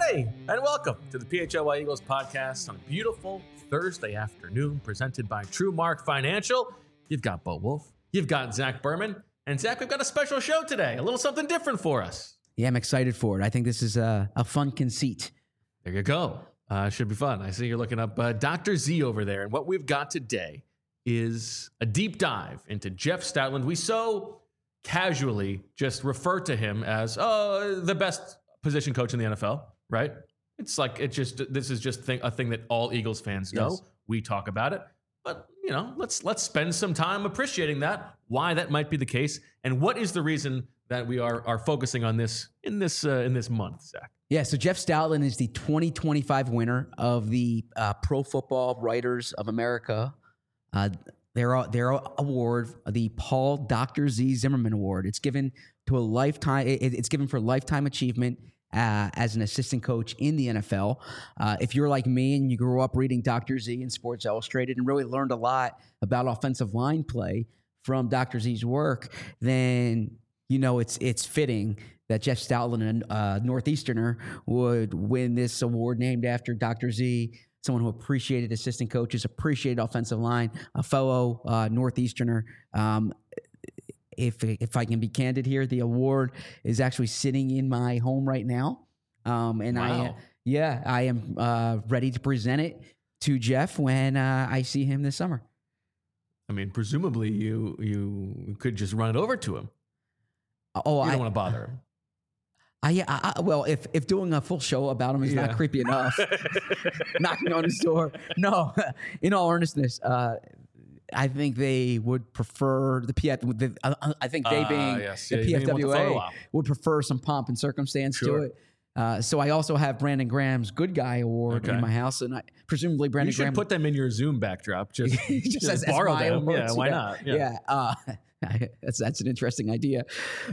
Hey, and welcome to the PHLY Eagles podcast on a beautiful Thursday afternoon presented by TrueMark Financial. You've got Bo Wolf, you've got Zach Berman, and Zach, we've got a special show today, a little something different for us. Yeah, I'm excited for it. I think this is a fun conceit. There you go. Should be fun. I see you're looking up Dr. Z over there, and what we've got today is a deep dive into Jeff Stoutland. We so casually just refer to him as the best position coach in the NFL, right? It's like this is just a thing that all Eagles fans know. Yes. We talk about it, but let's spend some time appreciating that, why that might be the case, and what is the reason that we are focusing on this in this month, Zach. Yeah, so Jeff Stoutland is the 2025 winner of the Pro Football Writers of America. Their award, the Paul Dr. Z Zimmerman Award. It's given to a lifetime. It's given for lifetime achievement as an assistant coach in the NFL. If you're like me and you grew up reading Dr. Z and Sports Illustrated and really learned a lot about offensive line play from Dr. Z's work, then it's fitting that Jeff Stoutland, a Northeasterner, would win this award named after Dr. Z, someone who appreciated assistant coaches, appreciated offensive line, a fellow Northeasterner. If I can be candid here, the award is actually sitting in my home right now. And wow. I am ready to present it to Jeff when I see him this summer. I mean, presumably you could just run it over to him. Oh, you don't want to bother him. Well, if doing a full show about him is not creepy enough, knocking on his door. No, in all earnestness, I think they would prefer the PF. I think they being the PFWA would prefer some pomp and circumstance to it. So I also have Brandon Graham's Good Guy Award in my house, and presumably Brandon Graham. You should put them in your Zoom backdrop. Just borrow them. Awards. Yeah, why not? Yeah. That's an interesting idea.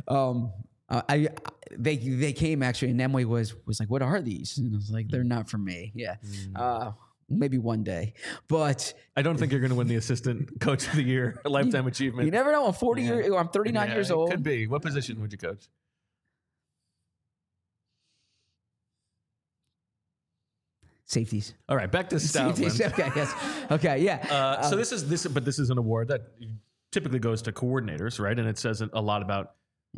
They came actually, and Emily was like, "What are these?" And I was like, "They're not for me." Yeah, maybe one day, but I don't think you're going to win the assistant coach of the year, lifetime achievement. You never know. I'm 39 years old. Could be. What position would you coach? Safeties. All right, back to Stoutland. Okay, yes. Okay, yeah. So this is an award that typically goes to coordinators, right? And it says a lot about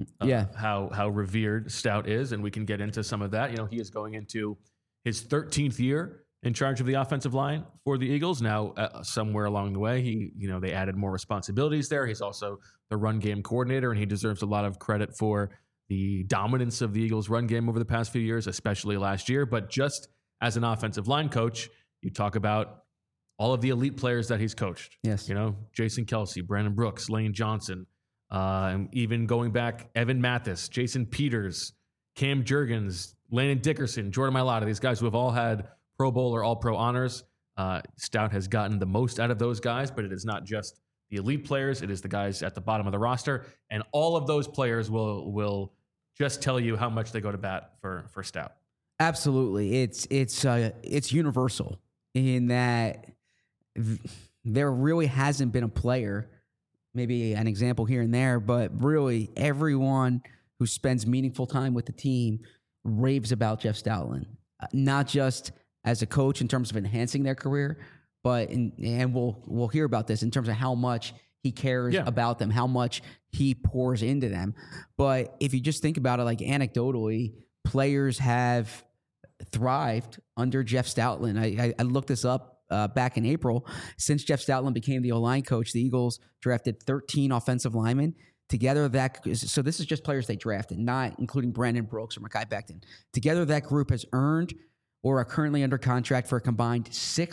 how revered Stout is, and we can get into some of that. He is going into his 13th year in charge of the offensive line for the Eagles. Now, somewhere along the way, they added more responsibilities there. He's also the run game coordinator, and he deserves a lot of credit for the dominance of the Eagles' run game over the past few years, especially last year. But just as an offensive line coach, you talk about all of the elite players that he's coached. Yes. Jason Kelce, Brandon Brooks, Lane Johnson, and even going back, Evan Mathis, Jason Peters, Cam Jurgens, Landon Dickerson, Jordan Mailata, these guys who have all had Pro Bowl or All-Pro honors. Stout has gotten the most out of those guys, but it is not just the elite players. It is the guys at the bottom of the roster. And all of those players will just tell you how much they go to bat for Stout. Absolutely. It's universal in that there really hasn't been a player, maybe an example here and there, but really everyone who spends meaningful time with the team raves about Jeff Stoutland, not just as a coach in terms of enhancing their career, but and we'll hear about this in terms of how much he cares about them, how much he pours into them. But if you just think about it, like anecdotally, players have thrived under Jeff Stoutland. I looked this up back in April. Since Jeff Stoutland became the O-line coach, the Eagles drafted 13 offensive linemen. Together, so this is just players they drafted, not including Brandon Brooks or Mekhi Becton. Together, that group has earned or are currently under contract for a combined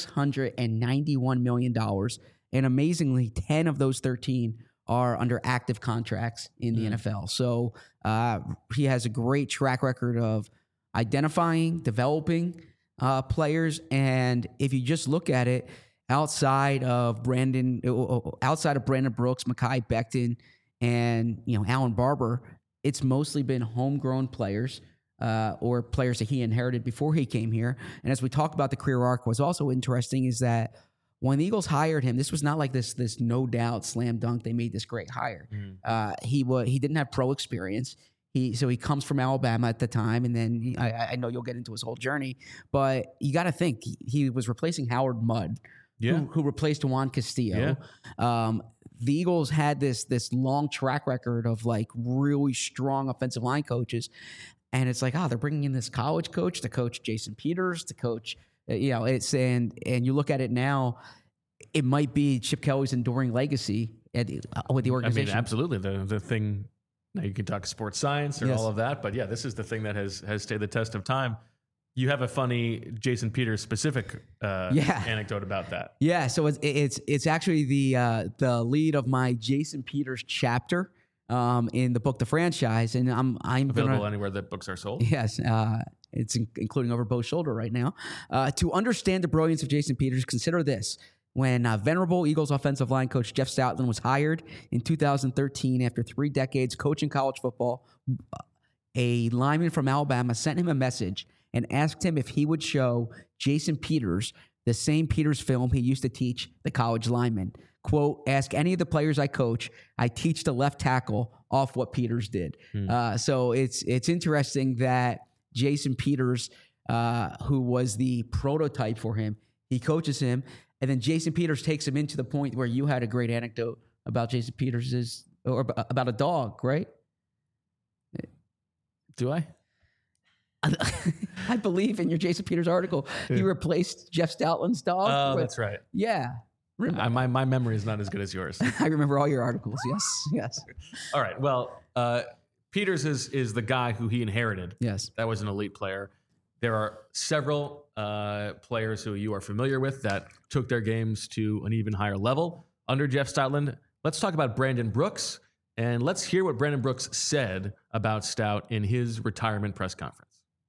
$691 million. And amazingly, 10 of those 13 are under active contracts in the NFL. So he has a great track record of identifying, developing players. And if you just look at it, outside of Brandon Brooks, Mekhi Becton, and Alan Barber, it's mostly been homegrown players or players that he inherited before he came here. And as we talk about the career arc, what's also interesting is that when the Eagles hired him, this was not like this no doubt slam dunk. They made this great hire. He didn't have pro experience. He comes from Alabama at the time, and then I know you'll get into his whole journey, but you got to think he was replacing Howard Mudd, who replaced Juan Castillo. Yeah. The Eagles had this long track record of like really strong offensive line coaches, and it's like, they're bringing in this college coach to coach Jason Peters, to coach, it's and you look at it now, it might be Chip Kelly's enduring legacy with the organization. I mean, absolutely. The thing, now you can talk sports science or all of that, but yeah, this is the thing that has stayed the test of time. You have a funny Jason Peters specific anecdote about that. Yeah, so it's actually the lead of my Jason Peters chapter in the book The Franchise, and I'm available anywhere that books are sold. Yes, it's including over Bo's shoulder right now. To understand the brilliance of Jason Peters, consider this. When venerable Eagles offensive line coach Jeff Stoutland was hired in 2013 after 3 decades coaching college football, a lineman from Alabama sent him a message and asked him if he would show Jason Peters the same Peters film he used to teach the college linemen. Quote, ask any of the players I coach. I teach the left tackle off what Peters did. So it's interesting that Jason Peters, who was the prototype for him, he coaches him, and then Jason Peters takes him into the point where you had a great anecdote about Jason Peters' or about a dog, right? Do I? I believe in your Jason Peters article, he replaced Jeff Stoutland's dog. Oh, that's right. Yeah. My memory is not as good as yours. I remember all your articles. Yes. All right. Well, Peters is the guy who he inherited. Yes. That was an elite player. There are several players who you are familiar with that took their games to an even higher level under Jeff Stoutland. Let's talk about Brandon Brooks, and let's hear what Brandon Brooks said about Stout in his retirement press conference.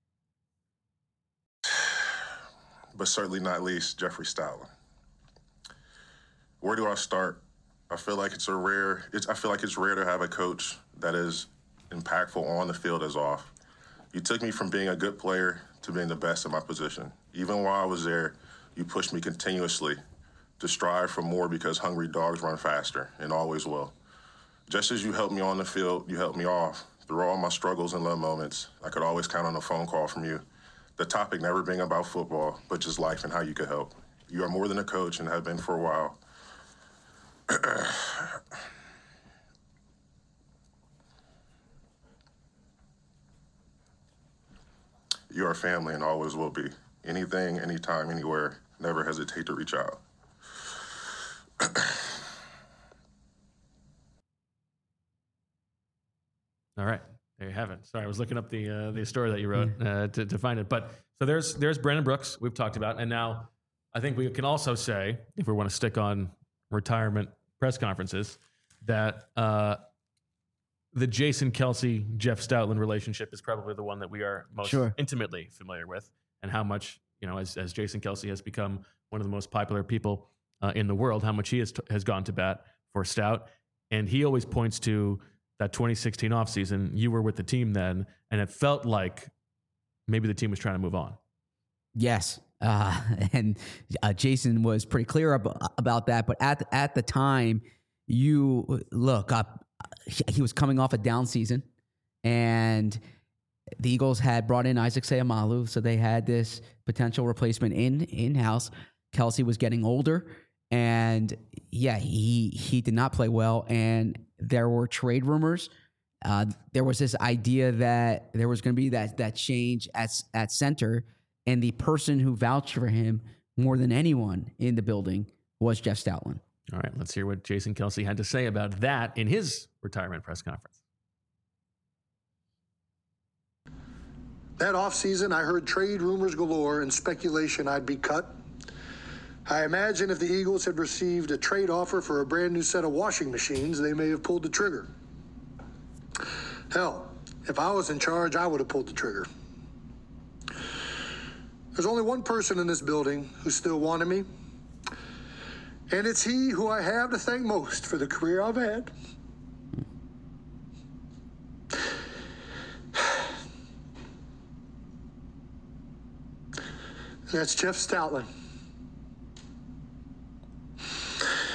But certainly not least, Jeffrey Stoutland. Where do I start? I feel like it's rare to have a coach that is impactful on the field as off. You took me from being a good player to being the best in my position. Even while I was there, you pushed me continuously to strive for more because hungry dogs run faster and always will. Just as you helped me on the field, you helped me off. Through all my struggles and low moments, I could always count on a phone call from you. The topic never being about football, but just life and how you could help. You are more than a coach and have been for a while. You are family and always will be. Anything, anytime, anywhere, never hesitate to reach out. All right. There you have it. Sorry, I was looking up the story that you wrote to find it. But so there's Brandon Brooks we've talked about, and now I think we can also say, if we want to stick on retirement press conferences, that the Jason Kelce Jeff Stoutland relationship is probably the one that we are most intimately familiar with, and how much as Jason Kelce has become one of the most popular people in the world, how much he has gone to bat for Stout, and he always points to that 2016 offseason. You were with the team then, and it felt like maybe the team was trying to move on. Yes. And Jason was pretty clear about that. But at the time, he was coming off a down season, and the Eagles had brought in Isaac Seumalo, so they had this potential replacement in-house. Kelce was getting older, and he did not play well, and there were trade rumors. There was this idea that there was going to be that change at center, and the person who vouched for him more than anyone in the building was Jeff Stoutland. All right, let's hear what Jason Kelce had to say about that in his retirement press conference. That offseason, I heard trade rumors galore and speculation I'd be cut. I imagine if the Eagles had received a trade offer for a brand new set of washing machines, they may have pulled the trigger. Hell, if I was in charge, I would have pulled the trigger. There's only one person in this building who still wanted me, and it's he who I have to thank most for the career I've had. That's Jeff Stoutland.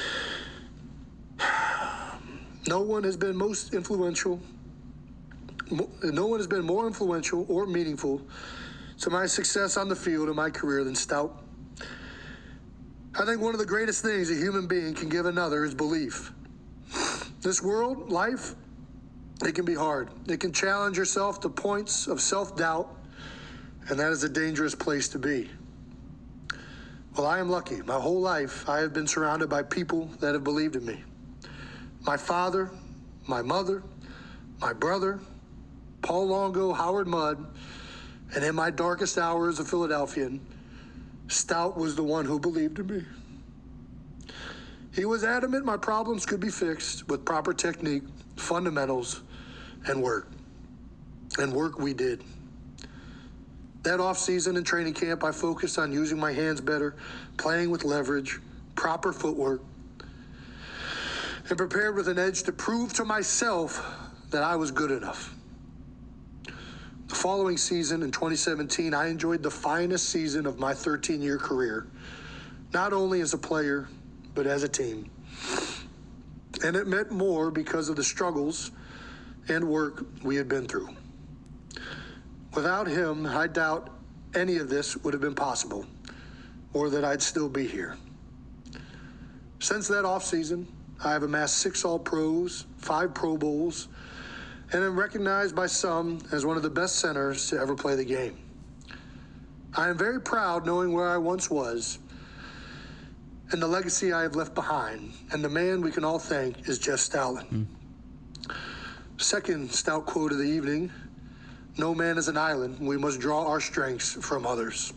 No one has been most influential, more influential or meaningful to my success on the field in my career than Stout. I think one of the greatest things a human being can give another is belief. This world, life, it can be hard. It can challenge yourself to points of self-doubt, and that is a dangerous place to be. Well, I am lucky. My whole life, I have been surrounded by people that have believed in me. My father, my mother, my brother, Paul Longo, Howard Mudd, and in my darkest hour as a Philadelphian, Stout was the one who believed in me. He was adamant my problems could be fixed with proper technique, fundamentals, and work. And work we did. That off-season and training camp, I focused on using my hands better, playing with leverage, proper footwork, and prepared with an edge to prove to myself that I was good enough. The following season, in 2017, I enjoyed the finest season of my 13-year career, not only as a player, but as a team. And it meant more because of the struggles and work we had been through. Without him, I doubt any of this would have been possible, or that I'd still be here. Since that offseason, I have amassed 6 All-Pros, 5 Pro Bowls, and am recognized by some as one of the best centers to ever play the game. I am very proud knowing where I once was and the legacy I have left behind, and the man we can all thank is Jeff Stoutland. Second Stout quote of the evening: "No man is an island. We must draw our strengths from others."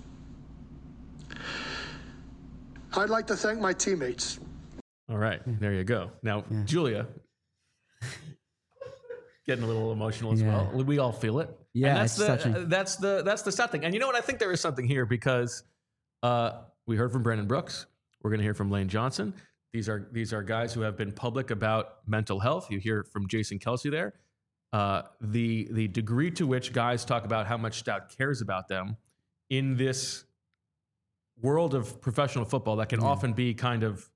I'd like to thank my teammates. All right, there you go. Now, Julia, getting a little emotional as well. We all feel it. Yeah, and that's the Stout thing. And you know what? I think there is something here because we heard from Brandon Brooks. We're going to hear from Lane Johnson. These are guys who have been public about mental health. You hear from Jason Kelce there. The degree to which guys talk about how much Stout cares about them in this world of professional football that can often be kind of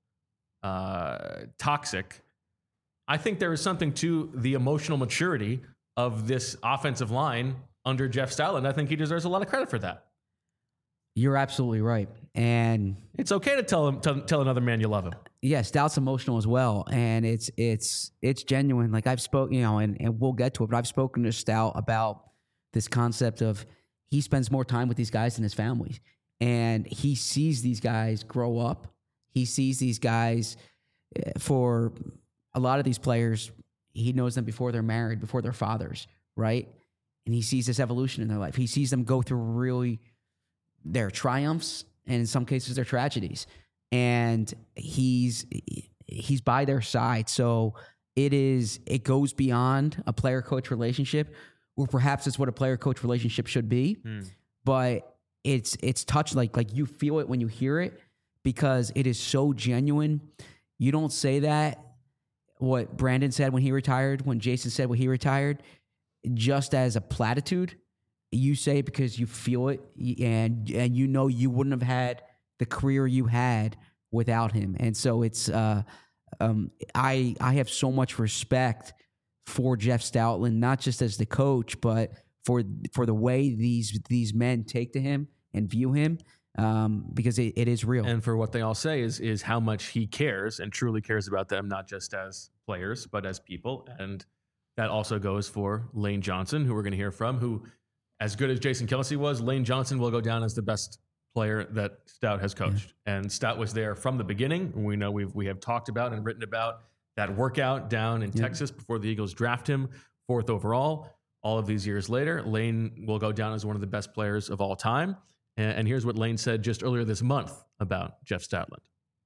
toxic. I think there is something to the emotional maturity of this offensive line under Jeff Stoutland. I think he deserves a lot of credit for that. You're absolutely right. And it's okay to tell another man you love him. Yeah, Stout's emotional as well. And it's genuine. Like I've spoken, and we'll get to it, but I've spoken to Stout about this concept of he spends more time with these guys than his family. And he sees these guys grow up. He sees these guys, for a lot of these players, he knows them before they're married, before they're fathers, right? And he sees this evolution in their life. He sees them go through really their triumphs and in some cases their tragedies. And he's by their side. So it goes beyond a player-coach relationship, or perhaps it's what a player-coach relationship should be. But it's touched, like you feel it when you hear it, because it is so genuine. You don't say that, what Brandon said when he retired, when Jason said when he retired, just as a platitude. You say it because you feel it, and you know you wouldn't have had the career you had without him. And so it's I have so much respect for Jeff Stoutland, not just as the coach, but for the way these men take to him and view him, because it is real. And for what they all say is how much he cares and truly cares about them, not just as players, but as people. And that also goes for Lane Johnson, who we're going to hear from, who, as good as Jason Kelce was, Lane Johnson will go down as the best player that Stout has coached. Yeah. And Stout was there from the beginning. We know we have talked about and written about that workout down in Texas before the Eagles draft him 4th overall. All of these years later, Lane will go down as one of the best players of all time. And here's what Lane said just earlier this month about Jeff Stoutland.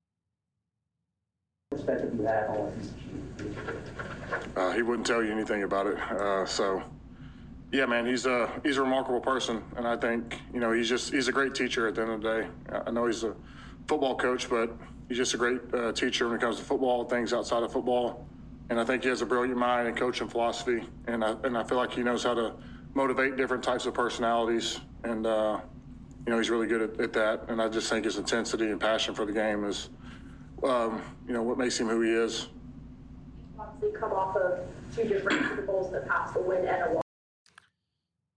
He wouldn't tell you anything about it. Yeah, man, he's a remarkable person, and I think he's a great teacher at the end of the day. I know he's a football coach, but he's just a great teacher when it comes to football, things outside of football. And I think he has a brilliant mind and coaching philosophy, and I feel like he knows how to motivate different types of personalities, and he's really good at that. And I just think his intensity and passion for the game is what makes him who he is. Obviously, come off of 2 different Super Bowls in the past, a win and a loss.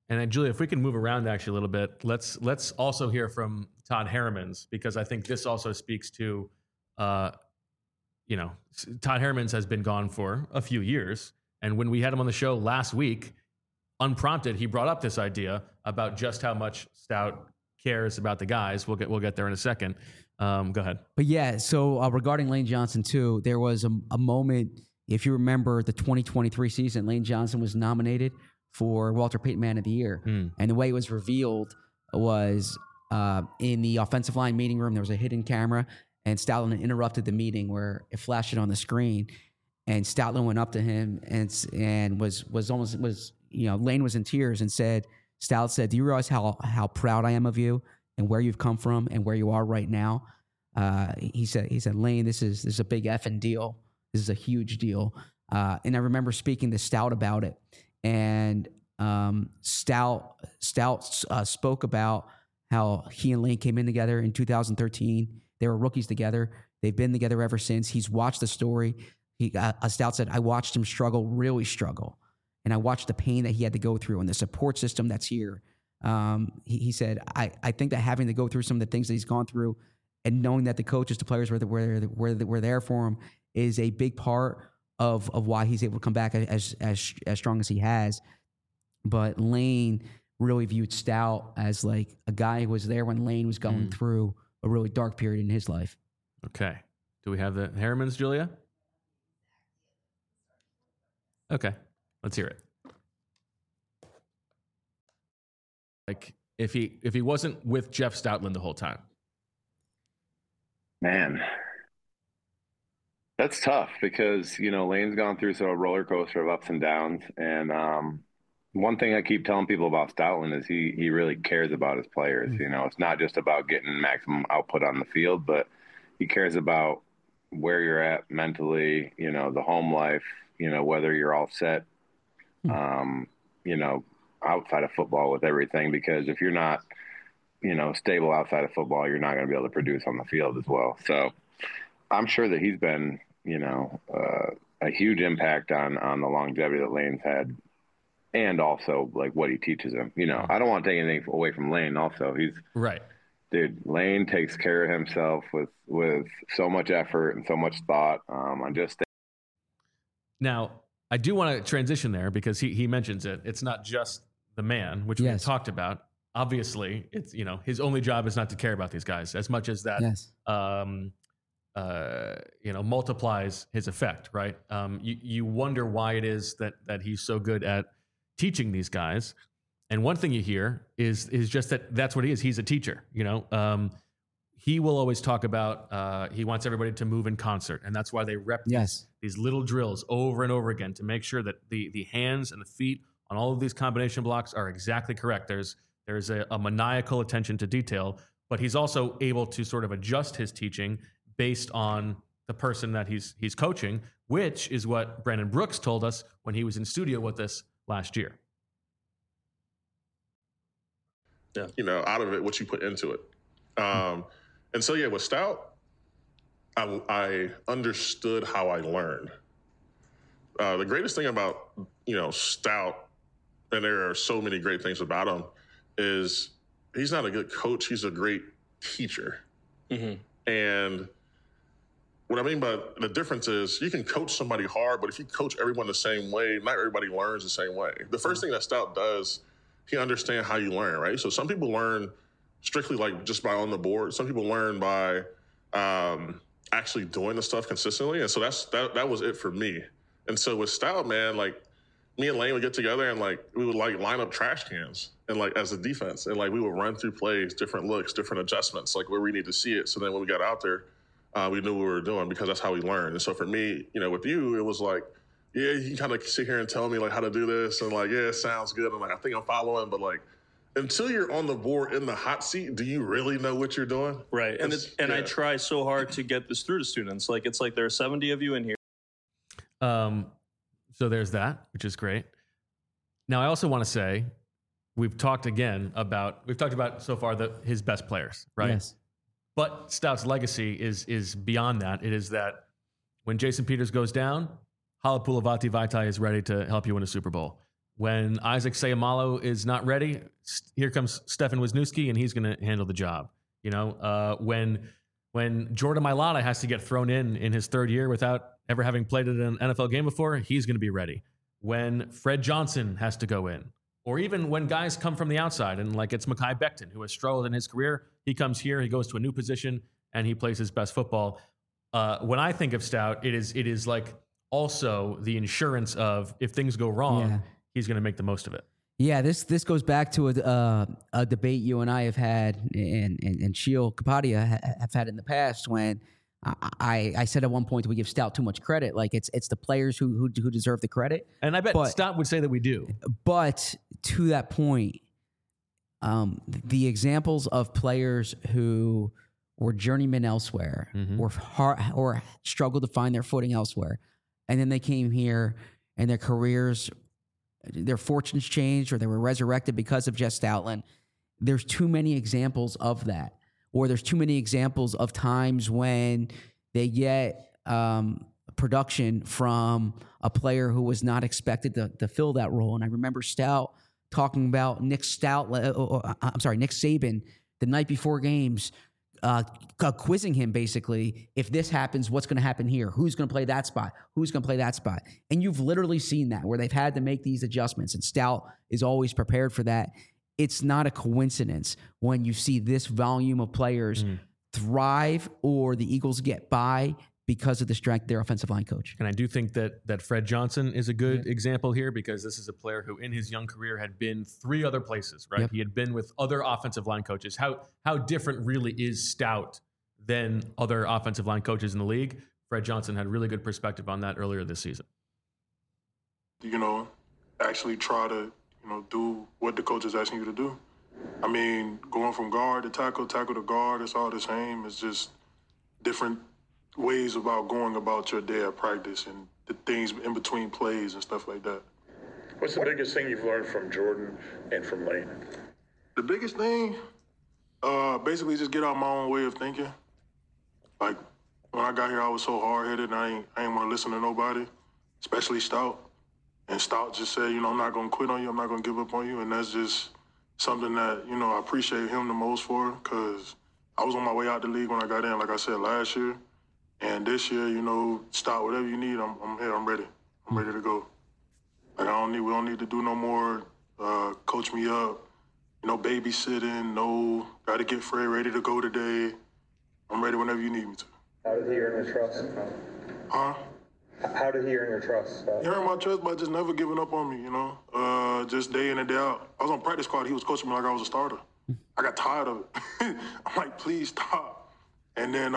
And then, Julia, if we can move around actually a little bit, let's also hear from Todd Herremans, because I think this also speaks to, Todd Herremans has been gone for a few years. And when we had him on the show last week, unprompted, he brought up this idea about just how much Stout cares about the guys. We'll get there in a second. Go ahead. But yeah, so regarding Lane Johnson too, there was a moment, if you remember the 2023 season, Lane Johnson was nominated for Walter Payton Man of the Year. And the way it was revealed was in the offensive line meeting room, there was a hidden camera, and Stoutland interrupted the meeting where it flashed it on the screen. And Stoutland went up to him and was Lane was in tears and said, Stout said, "Do you realize how proud I am of you and where you've come from and where you are right now?" He said, "Lane, this is a big effing deal. This is a huge deal." And I remember speaking to Stout about it, and Stout spoke about how he and Lane came in together in 2013. They were rookies together. They've been together ever since. He's watched the story. Stout said, "I watched him really struggle. And I watched the pain that he had to go through and the support system that's here." He said, I think that having to go through some of the things that he's gone through and knowing that the coaches, the players were there for him is a big part of why he's able to come back as strong as he has. But Lane really viewed Stout as like a guy who was there when Lane was going through a really dark period in his life. Okay. Do we have the Herremans, Julia? Okay. Let's hear it. Like if he wasn't with Jeff Stoutland the whole time. Man, that's tough because, Lane's gone through a roller coaster of ups and downs. And one thing I keep telling people about Stoutland is he really cares about his players. It's not just about getting maximum output on the field, but he cares about where you're at mentally, the home life, whether you're all set, outside of football with everything, because if you're not, stable outside of football, you're not going to be able to produce on the field as well. So I'm sure that he's been, a huge impact on the longevity that Lane's had, and also like what he teaches him. I don't want to take anything away from Lane. Also, he's right. Dude, Lane takes care of himself with so much effort and so much thought. Now, I do want to transition there because he mentions it. It's not just the man, which we've talked about. Obviously, it's his only job is not to care about these guys as much as that. Yes. Multiplies his effect, right? You wonder why it is that he's so good at teaching these guys. And one thing you hear is just that's what he is. He's a teacher. He will always talk about he wants everybody to move in concert, and that's why they rep these little drills over and over again to make sure that the hands and the feet on all of these combination blocks are exactly correct. There's a maniacal attention to detail, but he's also able to sort of adjust his teaching based on the person that he's coaching, which is what Brandon Brooks told us when he was in studio with us last year. Yeah. Out of it, what you put into it. And so, with Stout, I understood how I learned. The greatest thing about, Stout, and there are so many great things about him, is he's not a good coach. He's a great teacher. Mm-hmm. And what I mean by the difference is you can coach somebody hard, but if you coach everyone the same way, not everybody learns the same way. The first thing that Stout does, he understands how you learn, right? So some people learn strictly like just by on the board. Some people learn by actually doing the stuff consistently. And so that was it for me. And so with Stout, man, like me and Lane would get together and like we would like line up trash cans and like as a defense, and like we would run through plays, different looks, different adjustments, like where we need to see it. So then when we got out there, we knew what we were doing because that's how we learned. And so for me, with you, it was like, yeah, you kind of sit here and tell me like how to do this, and like, yeah, it sounds good, and like I think I'm following, but like until you're on the board in the hot seat, do you really know what you're doing? Right. And I try so hard to get this through to students. Like it's like there are 70 of you in here. So there's that, which is great. Now I also want to say we've talked about so far his best players, right? Yes. But Stout's legacy is beyond that. It is that when Jason Peters goes down, Halapoulivaati Vaitai is ready to help you win a Super Bowl. When Isaac Seumalo is not ready, here comes Stefan Wisniewski, and he's going to handle the job. When Jordan Mailata has to get thrown in his third year without ever having played in an NFL game before, he's going to be ready. When Fred Johnson has to go in, or even when guys come from the outside, and like it's Mekhi Becton, who has struggled in his career, he comes here, he goes to a new position, and he plays his best football. When I think of Stout, it is like also the insurance of if things go wrong, he's going to make the most of it. Yeah, this goes back to a debate you and I have had, and Sheil Kapadia have had in the past, when I said at one point we give Stout too much credit. Like it's the players who deserve the credit. And I bet Stout would say that we do. But to that point, the examples of players who were journeymen elsewhere, or struggled to find their footing elsewhere, and then they came here and their careers, their fortunes changed, or they were resurrected because of Jeff Stoutland. There's too many examples of that, or there's too many examples of times when they get production from a player who was not expected to fill that role. And I remember Stout talking about Nick Saban the night before games, quizzing him basically, if this happens, what's going to happen here? Who's going to play that spot? Who's going to play that spot? And you've literally seen that where they've had to make these adjustments, and Stout is always prepared for that. It's not a coincidence when you see this volume of players thrive or the Eagles get by because of the strength of their offensive line coach. And I do think that Fred Johnson is a good example here, because this is a player who in his young career had been 3 other places, right? Yep. He had been with other offensive line coaches. How different really is Stout than other offensive line coaches in the league? Fred Johnson had really good perspective on that earlier this season. Actually try to, do what the coach is asking you to do. I mean, going from guard to tackle to guard, it's all the same. It's just different ways about going about your day at practice and the things in between plays and stuff like that. What's the biggest thing you've learned from Jordan and from Lane? The biggest thing, basically just get out my own way of thinking. Like, when I got here, I was so hard-headed, and I ain't want to listen to nobody, especially Stout. And Stout just said, I'm not going to quit on you, I'm not going to give up on you, and that's just something that, I appreciate him the most for, because I was on my way out the league when I got in, like I said, last year. And this year, Stout, whatever you need, I'm here, I'm ready. I'm ready to go. Like, we don't need to do no more coach me up, babysitting, got to get Fred ready to go today. I'm ready whenever you need me to. How did he earn your trust? Huh? How did he earn your trust? He earned my trust by just never giving up on me, just day in and day out. I was on practice squad, he was coaching me like I was a starter. I got tired of it. I'm like, please stop. And then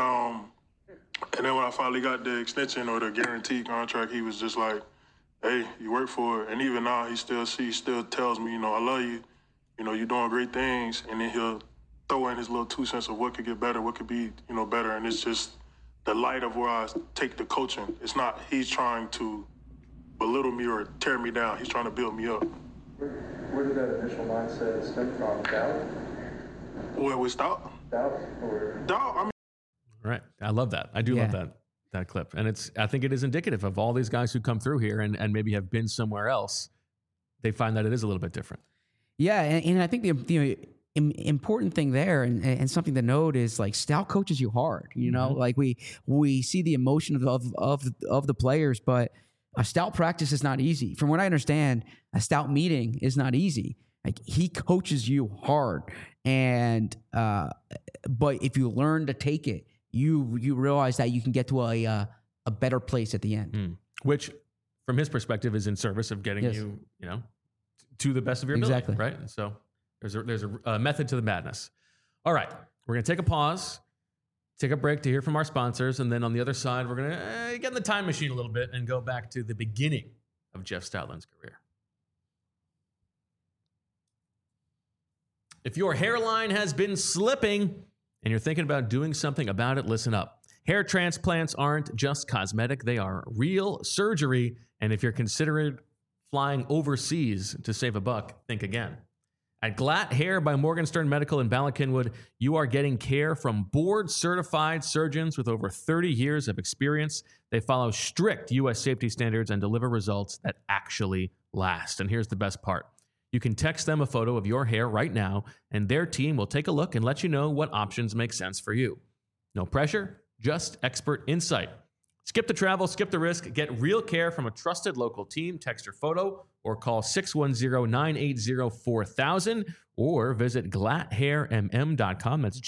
when I finally got the extension or the guaranteed contract, he was just like, hey, you work for it. And even now, he still tells me, I love you. You're doing great things. And then he'll throw in his little 2 cents of what could get better, what could be, better. And it's just the light of where I take the coaching. It's not he's trying to belittle me or tear me down. He's trying to build me up. Where did that initial mindset stem from? Doubt? What, with Stout? Doubt? Doubt, I mean. Right. I love that. I do love that clip. And I think it is indicative of all these guys who come through here and maybe have been somewhere else. They find that it is a little bit different. Yeah. And I think the important thing there and something to note is like Stout coaches you hard, like we see the emotion of the players, but a Stout practice is not easy. From what I understand, a Stout meeting is not easy. Like he coaches you hard. And, but if you learn to take it, you realize that you can get to a better place at the end. Which, from his perspective, is in service of getting you to the best of your ability, right? And so there's a method to the madness. All right, we're going to take a pause, take a break to hear from our sponsors, and then on the other side, we're going to get in the time machine a little bit and go back to the beginning of Jeff Stoutland's career. If your hairline has been slipping and you're thinking about doing something about it, listen up. Hair transplants aren't just cosmetic. They are real surgery. And if you're considering flying overseas to save a buck, think again. At Glatt Hair by Morgenstern Medical in Bala Cynwyd, you are getting care from board-certified surgeons with over 30 years of experience. They follow strict U.S. safety standards and deliver results that actually last. And here's the best part. You can text them a photo of your hair right now, and their team will take a look and let you know what options make sense for you. No pressure, just expert insight. Skip the travel, skip the risk, get real care from a trusted local team. Text your photo or call 610-980-4000 or visit glatthairmm.com. That's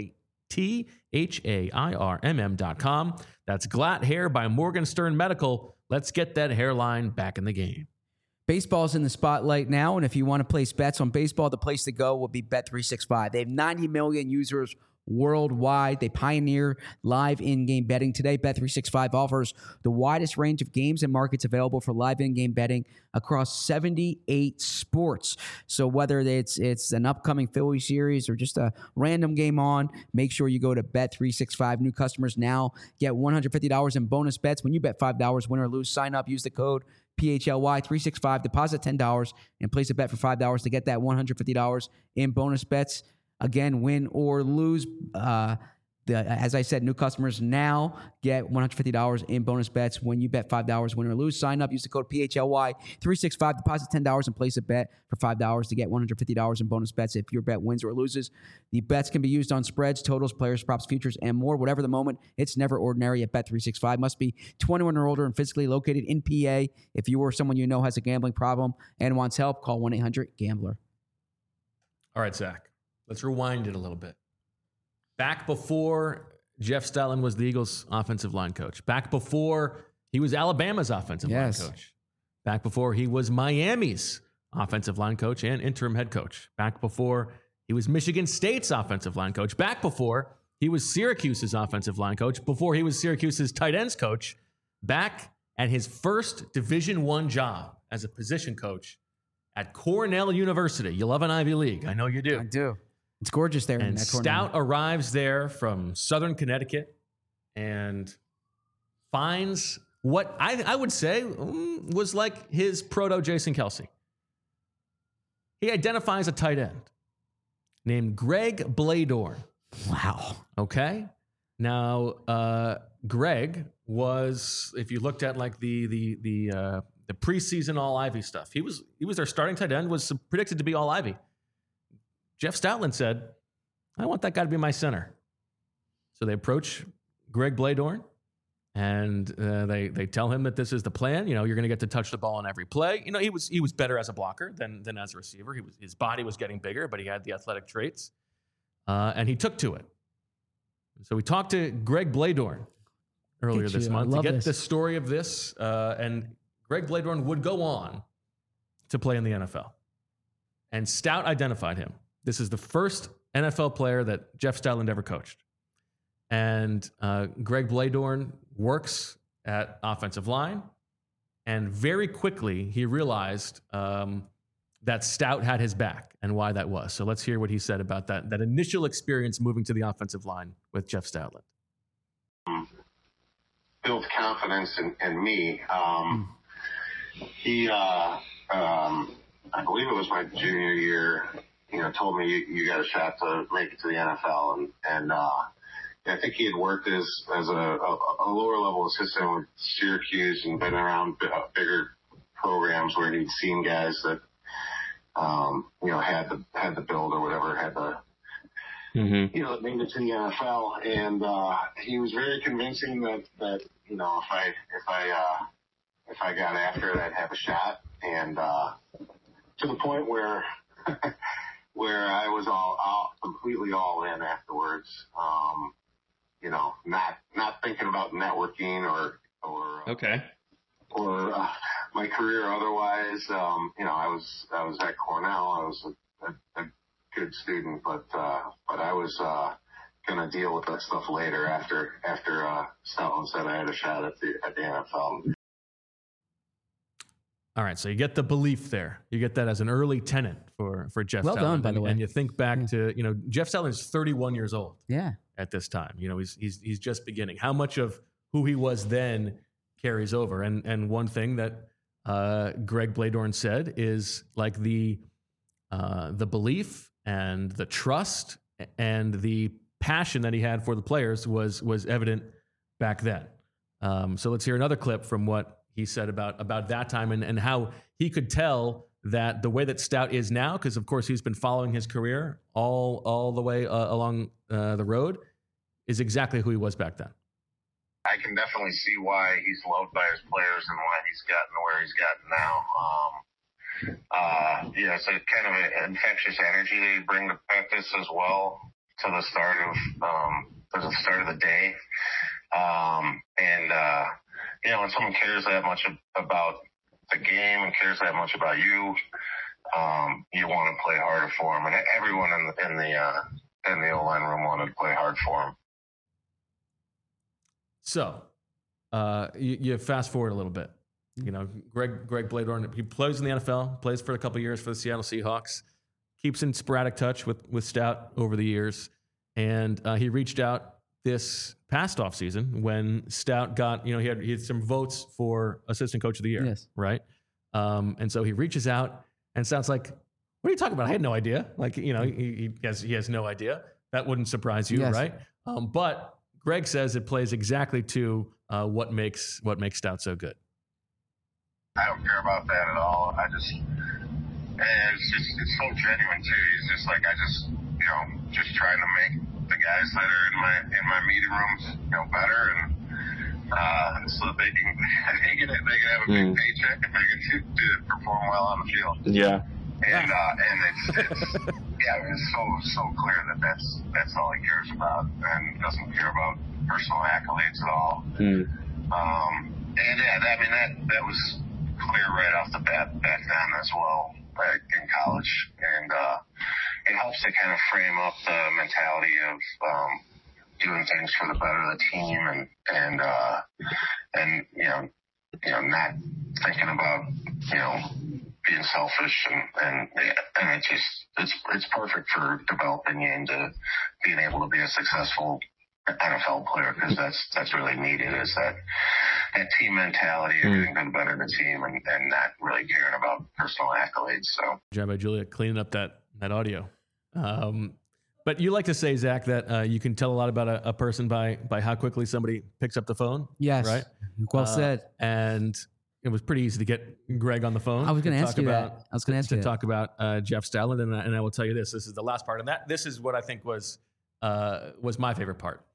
GLATHAIRMM.com. That's Glatt Hair by Morgan Stern Medical. Let's get that hairline back in the game. Baseball's in the spotlight now, and if you want to place bets on baseball, the place to go will be Bet365. They have 90 million users worldwide. They pioneer live in-game betting today. Bet365 offers the widest range of games and markets available for live in-game betting across 78 sports. So whether it's an upcoming Philly series or just a random game on, make sure you go to Bet365. New customers now get $150 in bonus bets when you bet $5, win or lose. Sign up, use the code PHLY365, deposit $10 and place a bet for $5 to get that $150 in bonus bets. Again, win or lose. As I said, new customers now get $150 in bonus bets when you bet $5, win or lose. Sign up, use the code PHLY365, deposit $10 and place a bet for $5 to get $150 in bonus bets if your bet wins or loses. The bets can be used on spreads, totals, players, props, futures, and more. Whatever the moment, it's never ordinary at Bet365. Must be 21 or older and physically located in PA. If you or someone you know has a gambling problem and wants help, call 1-800-GAMBLER. All right, Zach, let's rewind it a little bit. Back before Jeff Stoutland was the Eagles' offensive line coach. Back before he was Alabama's offensive line coach. Back before he was Miami's offensive line coach and interim head coach. Back before he was Michigan State's offensive line coach. Back before he was Syracuse's offensive line coach. Before he was Syracuse's tight ends coach. Back at his first Division I job as a position coach at Cornell University. You love an Ivy League. I know you do. I do. It's gorgeous there. And Stout arrives there from Southern Connecticut and finds what I would say was like his proto Jason Kelce. He identifies a tight end named Greg Bladorn. Wow. Okay. Now, Greg was, if you looked at like the preseason All Ivy stuff, he was their starting tight end, was predicted to be All Ivy. Jeff Stoutland said, I want that guy to be my center. So they approach Greg Bladorn and they tell him that this is the plan. You know, you're going to get to touch the ball on every play. You know, he was better as a blocker than as a receiver. His body was getting bigger, but he had the athletic traits. And he took to it. So we talked to Greg Bladorn earlier this month to get the story of this. And Greg Bladorn would go on to play in the NFL. And Stout identified him. This is the first NFL player that Jeff Stoutland ever coached. And Greg Bladorn works at offensive line. And very quickly, he realized that Stout had his back and why that was. So let's hear what he said about that initial experience moving to the offensive line with Jeff Stoutland. Built confidence in me. He, I believe it was my junior year, told me you got a shot to make it to the NFL. And I think he had worked as a lower level assistant with Syracuse and been around bigger programs where he'd seen guys that, had the build or whatever, had the, that made it to the NFL. And he was very convincing that if I got after it, I'd have a shot. And to the point where I was completely all in afterwards. Not thinking about networking or my career otherwise. I was at Cornell. I was a good student, but I was gonna deal with that stuff later after Stoutland said I had a shot at the NFL. All right, so you get the belief there. You get that as an early tenant for Jeff Stoutland. Well done, by the way. And you think back to, Jeff Stoutland is 31 years old. Yeah. At this time, he's just beginning. How much of who he was then carries over? And one thing that Greg Bladorn said is like the belief and the trust and the passion that he had for the players was evident back then. So let's hear another clip from what he said about that time and how he could tell that the way that Stout is now, because of course he's been following his career all the way along the road, is exactly who he was back then. I can definitely see why he's loved by his players and why he's gotten to where he's gotten now. It's a kind of an infectious energy that you bring to practice as well to the start of the day. When someone cares that much about the game and cares that much about you, you want to play harder for him. And everyone in the O-line room wanted to play hard for him. So, you fast forward a little bit. You know, Greg Bladorn, he plays in the NFL, plays for a couple of years for the Seattle Seahawks, keeps in sporadic touch with Stout over the years, and he reached out this past offseason when Stout got, he had some votes for Assistant Coach of the Year, yes, right? And so he reaches out, and Stout's like, "What are you talking about? I had no idea." Like, he has no idea. That wouldn't surprise you, yes, right? But Greg says it plays exactly to what makes Stout so good. I don't care about that at all. It's so genuine too. He's just like, just trying to make the guys that are in my meeting rooms, better, and so that they can have a big paycheck and they get to perform well on the field. Yeah. And it's so clear that that's all he cares about, and doesn't care about personal accolades at all. That was clear right off the bat back then as well, back in college, and it helps to kind of frame up the mentality of doing things for the better of the team, and not thinking about being selfish, and it's perfect for developing you into being able to be a successful NFL player, because that's really needed, is that team mentality of getting the better of the team and not really caring about personal accolades. So, job by Julia cleaning up that audio. But you like to say, Zach, that you can tell a lot about a person by how quickly somebody picks up the phone. Yes, right. Well said. And it was pretty easy to get Greg on the phone. I was going to ask you that. I was going to ask you to talk about Jeff Stoutland, and I will tell you this. This is the last part, and this is what I think was my favorite part.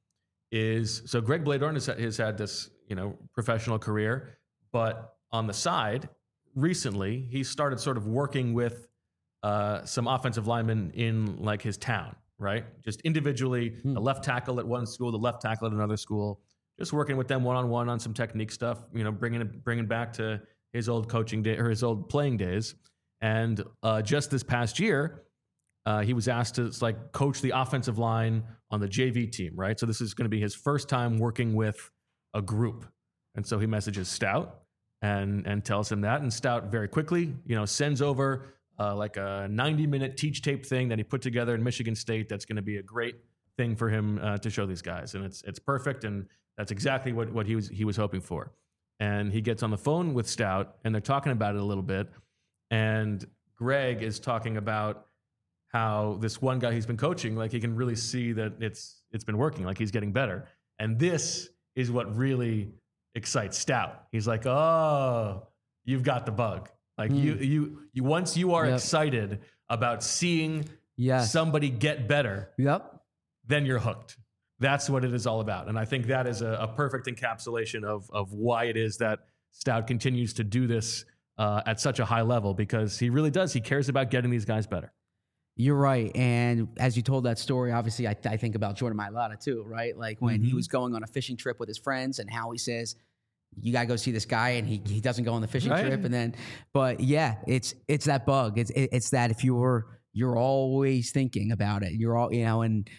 So Greg Bladorn has had this professional career, but on the side, recently he started sort of working with some offensive linemen in like his town, right? Just individually, the left tackle at one school, the left tackle at another school, just working with them one-on-one on some technique stuff, bringing back to his old coaching day or his old playing days. And just this past year, he was asked to coach the offensive line on the JV team, right? So this is going to be his first time working with a group. And so he messages Stout and tells him that. And Stout very quickly, sends over like a 90-minute teach tape thing that he put together in Michigan State. That's going to be a great thing for him to show these guys. And it's perfect. And that's exactly what he was hoping for. And he gets on the phone with Stout, and they're talking about it a little bit. And Greg is talking about how this one guy he's been coaching, like he can really see that it's been working, like he's getting better. And this is what really excites Stout. He's like, "Oh, you've got the bug. Like you once you are excited about seeing somebody get better, then you're hooked." That's what it is all about. And I think that is a perfect encapsulation of why it is that Stout continues to do this at such a high level, because he really does. He cares about getting these guys better. You're right. And as you told that story, obviously I think about Jordan Mailata too, right? Like when he was going on a fishing trip with his friends, and how he says, "You got to go see this guy," and he doesn't go on the fishing trip. And then, but yeah, it's that bug. It's that if you're always thinking about it, you're all, and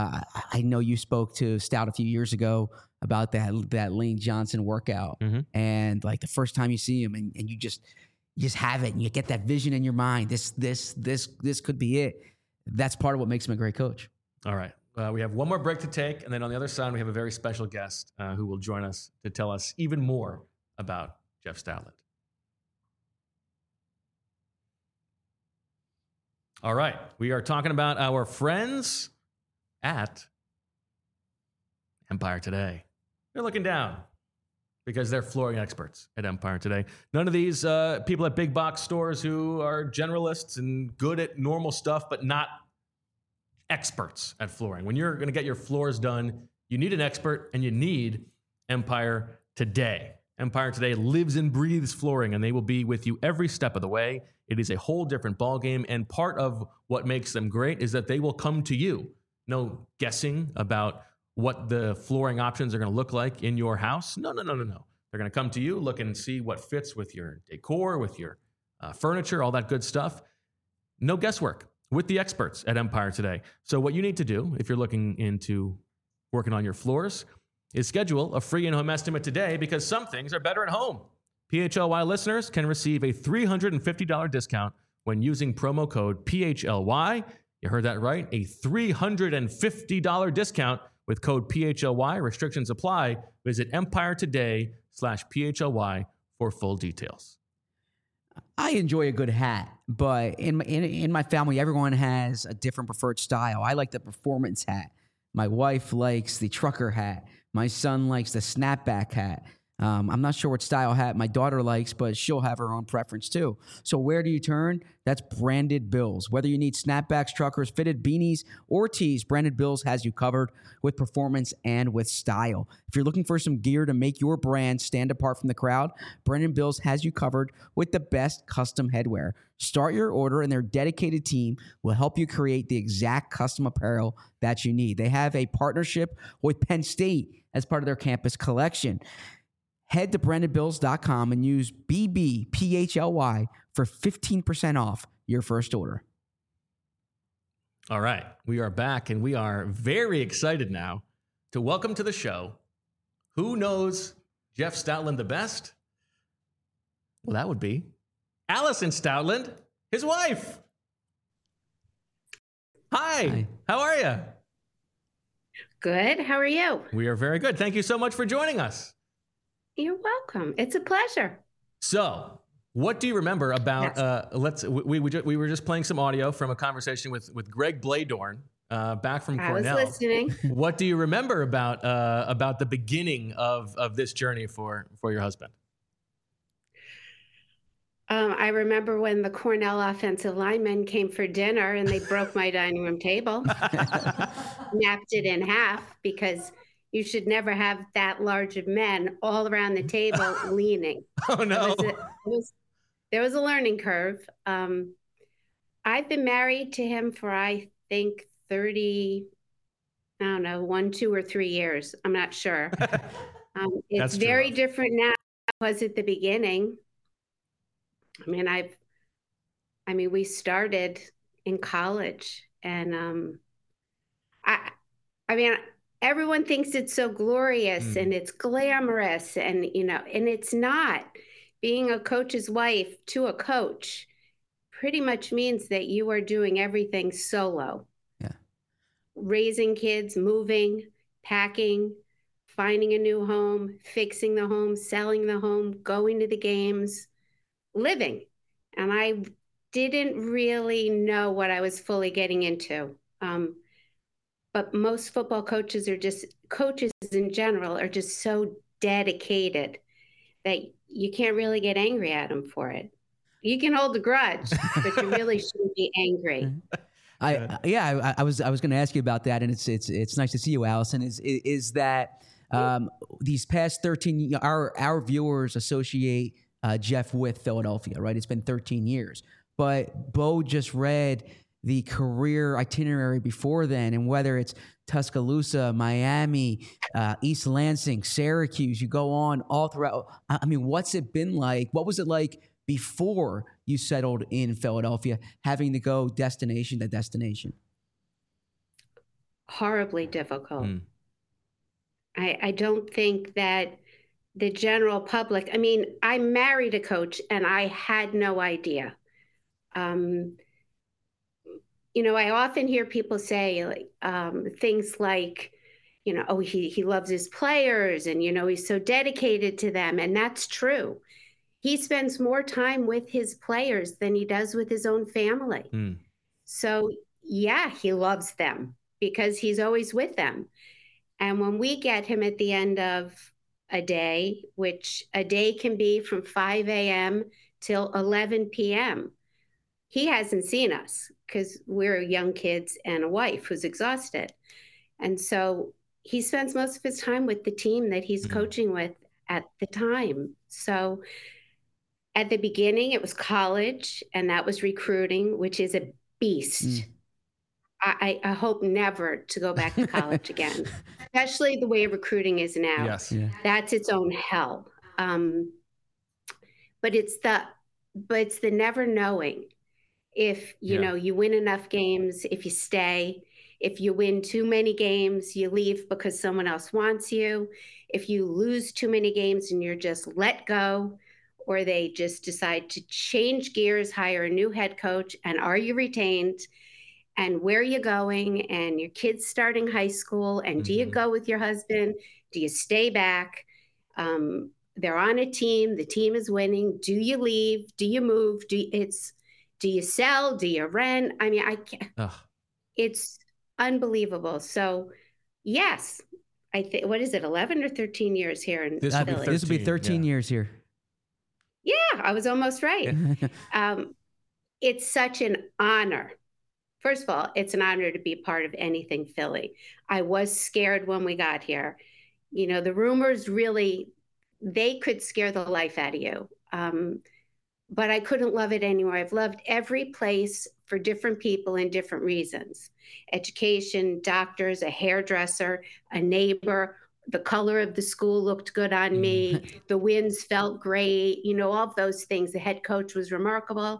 I know you spoke to Stout a few years ago about that Lane Johnson workout, and like the first time you see him, and you just have it, and you get that vision in your mind. This could be it. That's part of what makes him a great coach. All right. We have one more break to take, and then on the other side, we have a very special guest who will join us to tell us even more about Jeff Stoutland. All right. We are talking about our friends at Empire Today. They're looking down. because they're flooring experts at Empire Today. None of these people at big box stores who are generalists and good at normal stuff, but not experts at flooring. When you're going to get your floors done, you need an expert, and you need Empire Today. Empire Today lives and breathes flooring, and they will be with you every step of the way. It is a whole different ballgame, and part of what makes them great is that they will come to you. No guessing about what the flooring options are going to look like in your house. No. They're going to come to you, look and see what fits with your decor, with your furniture, all that good stuff. No guesswork with the experts at Empire Today. So what you need to do if you're looking into working on your floors is schedule a free in-home estimate today, because some things are better at home. PHLY listeners can receive a $350 discount when using promo code PHLY. You heard that right, a $350 discount with code PHLY. Restrictions apply. Visit EmpireToday.com/PHLY for full details. I enjoy a good hat, but in my family, everyone has a different preferred style. I like the performance hat. My wife likes the trucker hat. My son likes the snapback hat. I'm not sure what style hat my daughter likes, but she'll have her own preference too. So where do you turn? That's Branded Bills. Whether you need snapbacks, truckers, fitted beanies, or tees, Branded Bills has you covered with performance and with style. If you're looking for some gear to make your brand stand apart from the crowd, Branded Bills has you covered with the best custom headwear. Start your order, and their dedicated team will help you create the exact custom apparel that you need. They have a partnership with Penn State as part of their campus collection. Head to brandedbills.com and use BBPHLY for 15% off your first order. All right, we are back, and we are very excited now to welcome to the show, who knows Jeff Stoutland the best? Well, that would be Allison Stoutland, his wife. Hi. How are you? Good. How are you? We are very good. Thank you so much for joining us. You're welcome. It's a pleasure. So, what do you remember about? Yes. We were just playing some audio from a conversation with Greg Bladorn back from Cornell. I was listening. What do you remember about the beginning of this journey for your husband? I remember when the Cornell offensive linemen came for dinner and they broke my dining room table, napped it in half, because you should never have that large of men all around the table leaning. Oh, no. There was a learning curve. I've been married to him for, I think, 1, 2, or 3 years. I'm not sure. It's very different now than it was at the beginning. I mean, we started in college, and everyone thinks it's so glorious and it's glamorous, and and it's not. Being a coach's wife to a coach pretty much means that you are doing everything solo. Yeah. Raising kids, moving, packing, finding a new home, fixing the home, selling the home, going to the games, living. And I didn't really know what I was fully getting into. But most football coaches coaches in general are just so dedicated that you can't really get angry at them for it. You can hold a grudge, but you really shouldn't be angry. I was going to ask you about that, and it's nice to see you, Allison. Is that these past 13 our viewers associate Jeff with Philadelphia, right? It's been 13 years. But Bo just read the career itinerary before then, and whether it's Tuscaloosa, Miami, East Lansing, Syracuse, you go on all throughout. I mean, what's it been like? What was it like before you settled in Philadelphia, having to go destination to destination? Horribly difficult. I don't think that the general public, I married a coach and I had no idea. I often hear people say things like, he loves his players and, he's so dedicated to them. And that's true. He spends more time with his players than he does with his own family. So, yeah, he loves them because he's always with them. And when we get him at the end of a day, which a day can be from 5 a.m. till 11 p.m. He hasn't seen us because we're young kids and a wife who's exhausted. And so he spends most of his time with the team that he's coaching with at the time. So at the beginning, it was college, and that was recruiting, which is a beast. I hope never to go back to college again, especially the way recruiting is now. Yes. Yeah. That's its own hell. But it's the never knowing if, you know, you win enough games, if you stay. If you win too many games, you leave because someone else wants you. If you lose too many games and you're just let go, or they just decide to change gears, hire a new head coach, and are you retained? And where are you going? And your kid's starting high school. And do you go with your husband? Do you stay back? They're on a team. The team is winning. Do you leave? Do you move? Do you sell? Do you rent? I mean, I can't. It's unbelievable. So, yes, I think, what is it, 11 or 13 years here in Philly? This will be 13 years here. Yeah, I was almost right. It's such an honor. First of all, it's an honor to be a part of anything Philly. I was scared when we got here. You know, the rumors really, they could scare the life out of you. But I couldn't love it anymore. I've loved every place for different people and different reasons. Education, doctors, a hairdresser, a neighbor. The color of the school looked good on me. The winds felt great. You know, all of those things. The head coach was remarkable.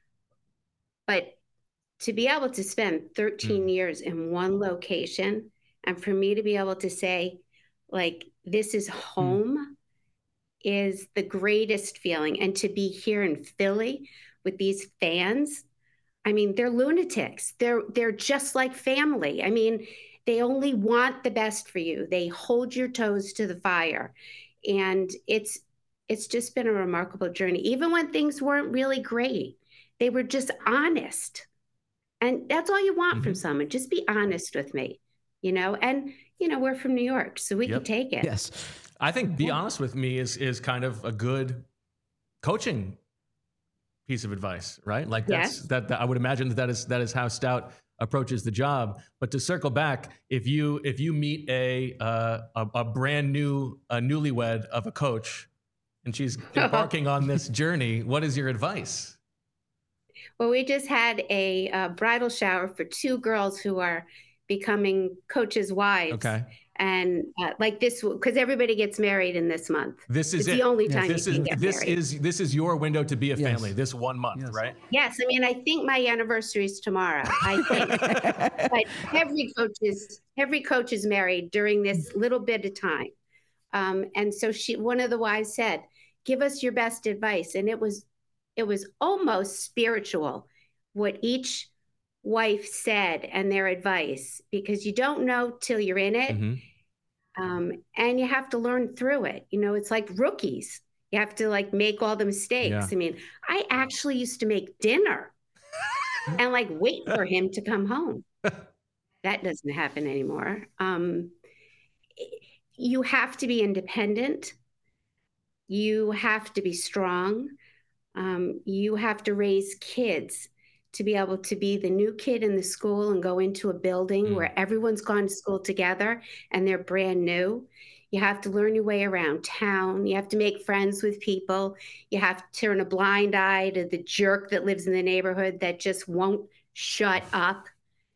But to be able to spend 13 years in one location, and for me to be able to say, like, this is home, is the greatest feeling. And to be here in Philly with these fans, I mean, they're lunatics. They're just like family. I mean, they only want the best for you. They hold your toes to the fire. And it's just been a remarkable journey. Even when things weren't really great, they were just honest. And that's all you want from someone. Just be honest with me, you know? And, you know, we're from New York, so we can take it. Yes. I think be honest with me is kind of a good coaching piece of advice, right? Like that I would imagine that is how Stout approaches the job. But to circle back, if you meet a brand new newlywed of a coach and she's embarking on this journey, what is your advice? Well, we just had a bridal shower for 2 girls who are becoming coaches' wives. Okay. And like this, because everybody gets married in this month. It's the only time you can get married. This is your window to be a family. This 1 month, right? Yes, I mean, I think my anniversary is tomorrow. I think, but every coach is married during this little bit of time. And so one of the wives said, "Give us your best advice," and it was almost spiritual what each wife said and their advice, because you don't know till you're in it. And you have to learn through it. You know, it's like rookies. You have to like make all the mistakes. Yeah. I mean, I actually used to make dinner and like wait for him to come home. That doesn't happen anymore. You have to be independent. You have to be strong. You have to raise kids to be able to be the new kid in the school and go into a building where everyone's gone to school together and they're brand new. You have to learn your way around town. You have to make friends with people. You have to turn a blind eye to the jerk that lives in the neighborhood that just won't shut up.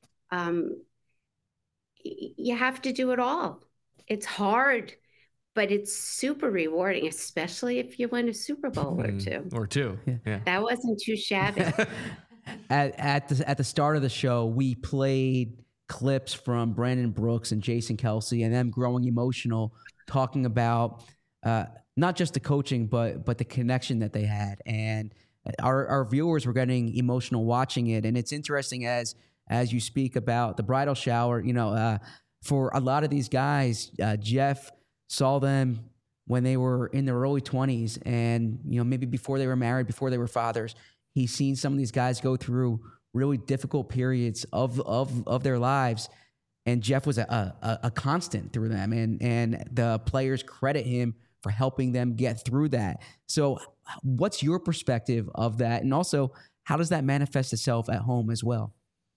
You have to do it all. It's hard, but it's super rewarding, especially if you win a Super Bowl or two. Or two. Yeah. That wasn't too shabby. At the start of the show, we played clips from Brandon Brooks and Jason Kelce and them growing emotional, talking about not just the coaching, but the connection that they had. And our viewers were getting emotional watching it. And it's interesting as you speak about the bridal shower, you know, for a lot of these guys, Jeff saw them when they were in their early 20s and, you know, maybe before they were married, before they were fathers. He's seen some of these guys go through really difficult periods of their lives. And Jeff was a constant through them, and the players credit him for helping them get through that. So what's your perspective of that? And also, how does that manifest itself at home as well?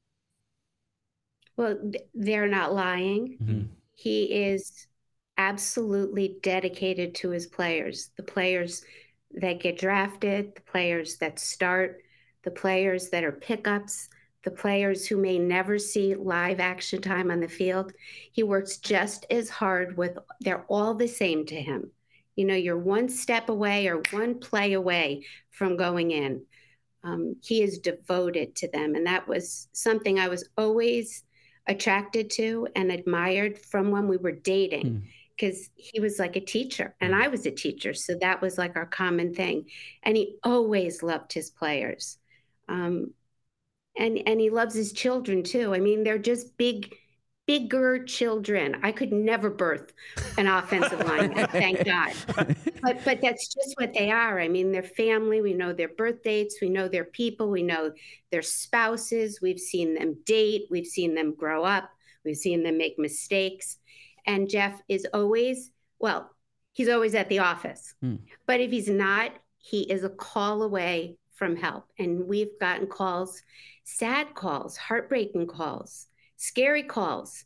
Well, they're not lying. Mm-hmm. He is absolutely dedicated to his players, the players that get drafted, the players that start, the players that are pickups, the players who may never see live action time on the field. He works just as hard with, they're all the same to him. You know, you're one step away or one play away from going in. He is devoted to them. And that was something I was always attracted to and admired from when we were dating, because he was like a teacher and I was a teacher. So that was like our common thing. And he always loved his players. And he loves his children too. I mean, they're just bigger children. I could never birth an offensive lineman, thank God. But that's just what they are. I mean, they're family. We know their birth dates. We know their people. We know their spouses. We've seen them date. We've seen them grow up. We've seen them make mistakes. And Jeff is always, well, he's always at the office. But if he's not, he is a call away from help. And we've gotten calls, sad calls, heartbreaking calls, scary calls,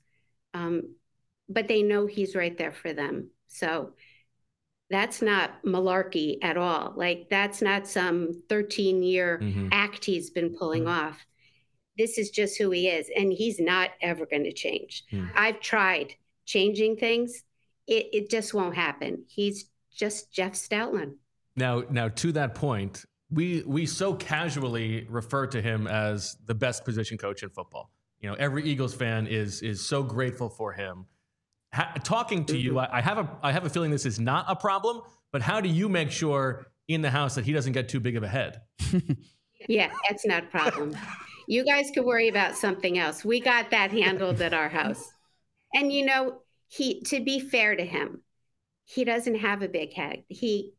but they know he's right there for them. So that's not malarkey at all. Like, that's not some 13-year act he's been pulling off. This is just who he is, and he's not ever going to change. I've tried changing things. It just won't happen. He's just Jeff Stoutland. Now to that point, we so casually refer to him as the best position coach in football. You know, every Eagles fan is so grateful for him. Talking to you, I have a feeling this is not a problem, but how do you make sure in the house that he doesn't get too big of a head? Yeah, that's not a problem. You guys could worry about something else. We got that handled at our house. And you know, to be fair to him, he doesn't have a big head. He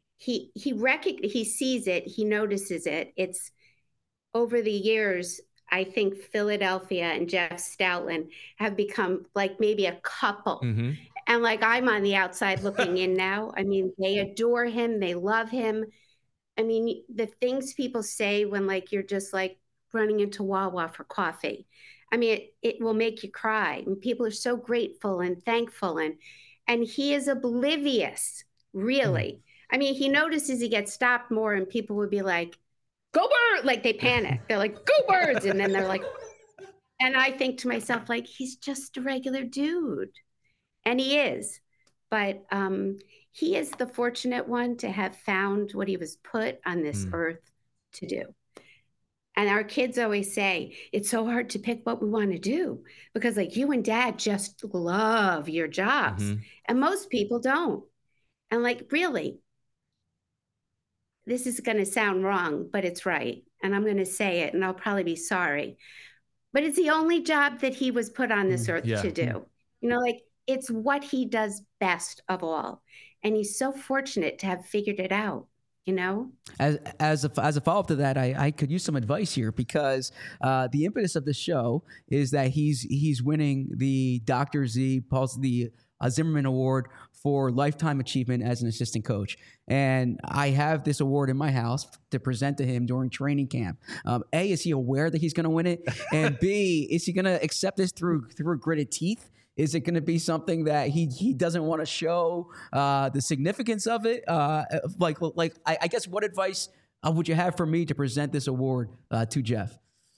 sees it, he notices it. It's over the years, I think Philadelphia and Jeff Stoutland have become like maybe a couple. And like, I'm on the outside looking in now. I mean, they adore him. They love him. I mean, the things people say when like, you're just like running into Wawa for coffee. I mean, it will make you cry. And people are so grateful and thankful. And he is oblivious, really. I mean, he notices he gets stopped more and people would be like, go bird, like they panic. They're like, go birds. And then they're like, and I think to myself, like, he's just a regular dude. And he is. But he is the fortunate one to have found what he was put on this earth to do. And our kids always say, it's so hard to pick what we want to do because like you and dad just love your jobs. And most people don't. And like, really, this is going to sound wrong, but it's right. And I'm going to say it and I'll probably be sorry. But it's the only job that he was put on this earth to do. You know, like it's what he does best of all. And he's so fortunate to have figured it out, you know? As a follow-up to that, I could use some advice here because the impetus of the show is that he's winning the Dr. Z, the Zimmerman Award for Lifetime Achievement as an assistant coach. And I have this award in my house to present to him during training camp. A, is he aware that he's going to win it? And B, is he going to accept this through gritted teeth? Is it going to be something that he doesn't want to show the significance of it? I guess what advice would you have for me to present this award to Jeff?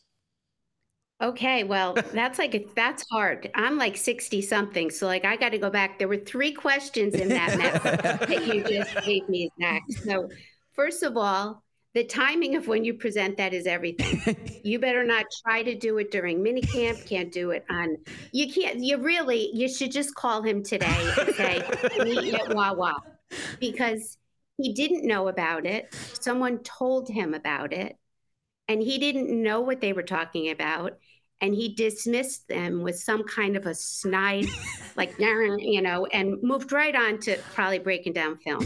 Okay, well, that's hard. I'm like 60 something. So like, I got to go back. There were 3 questions in that message that you just gave me, Zach. So first of all, the timing of when you present that is everything. You better not try to do it during minicamp. Can't do it on, you should just call him today and say, meet me at Wawa. Because he didn't know about it. Someone told him about it. And he didn't know what they were talking about. And he dismissed them with some kind of a snide, like, you know, and moved right on to probably breaking down film.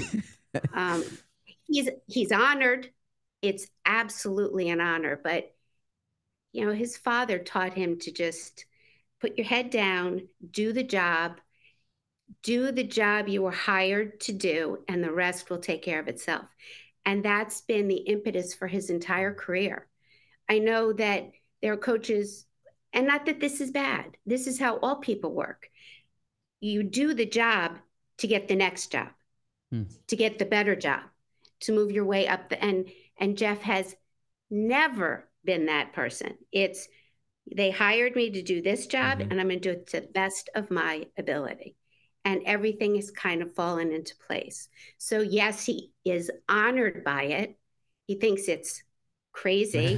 He's honored. It's absolutely an honor. But, you know, his father taught him to just put your head down, do the job you were hired to do, and the rest will take care of itself. And that's been the impetus for his entire career. I know that there are coaches, and not that this is bad, this is how all people work. You do the job to get the next job, to get the better job, to move your way up and Jeff has never been that person. It's, they hired me to do this job, and I'm going to do it to the best of my ability. And everything has kind of fallen into place. So yes, he is honored by it. He thinks it's crazy.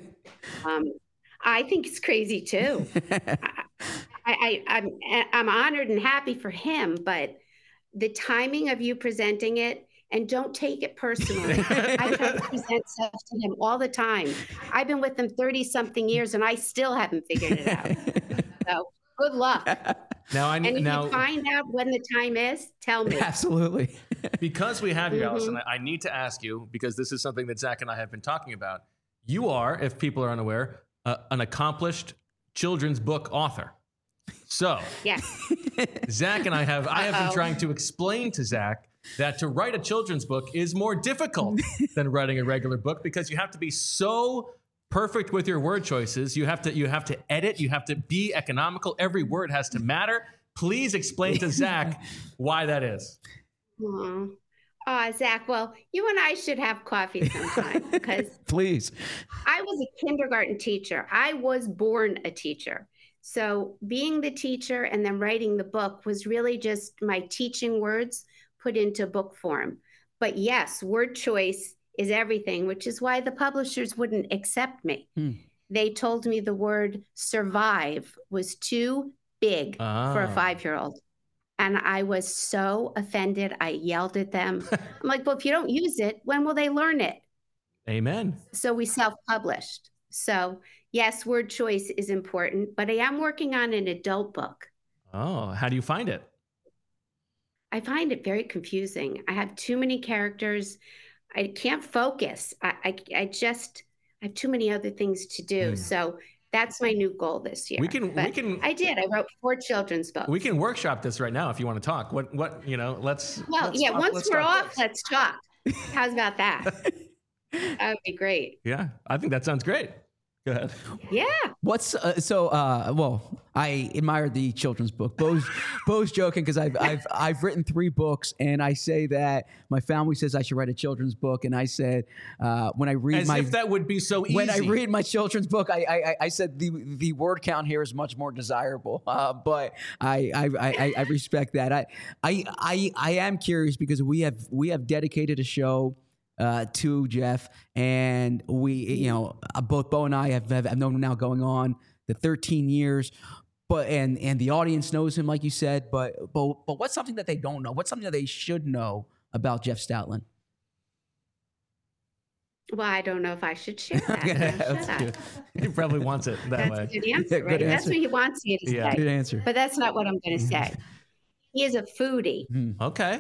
I think it's crazy too. I'm honored and happy for him, but the timing of you presenting it, and don't take it personally. I try to present stuff to him all the time. I've been with him 30-something years, and I still haven't figured it out. So good luck. Now, and if you find out when the time is, tell me. Absolutely. Because we have you, Allison, I need to ask you, because this is something that Zach and I have been talking about. You are, if people are unaware, an accomplished children's book author. So, yes. Zach and I have been trying to explain to Zach that to write a children's book is more difficult than writing a regular book, because you have to be so perfect with your word choices. You have to edit. You have to be economical. Every word has to matter. Please explain to Zach why that is. Oh, Zach, well, you and I should have coffee sometime, because please. I was a kindergarten teacher. I was born a teacher. So being the teacher and then writing the book was really just my teaching words put into book form. But yes, word choice is everything, which is why the publishers wouldn't accept me. They told me the word survive was too big for a 5-year-old. And I was so offended. I yelled at them. I'm like, well, if you don't use it, when will they learn it? Amen. So we self-published. So yes, word choice is important, but I am working on an adult book. Oh, how do you find it? I find it very confusing. I have too many characters. I can't focus. I have too many other things to do. So that's my new goal this year. I wrote 4 children's books. We can workshop this right now if you want to talk. Let's once we're off, let's talk. How's about that? That would be great. Yeah, I think that sounds great. Go ahead. Yeah. Well, I admire the children's book. Bo's joking, because I've written 3 books, and I say that my family says I should write a children's book, and I said when I read if that would be so easy. When I read my children's book, I said the word count here is much more desirable. But I respect that. I am curious, because we have dedicated a show to Jeff, and we, both Bo and I have known him now going on the 13 years, but and the audience knows him, like you said, but what's something that they don't know? What's something that they should know about Jeff Stoutland? Well, I don't know if I should share that. He probably wants it that way. That's a good answer, right? That's what he wants you to say. Good answer. But that's not what I'm going to say. He is a foodie. Okay.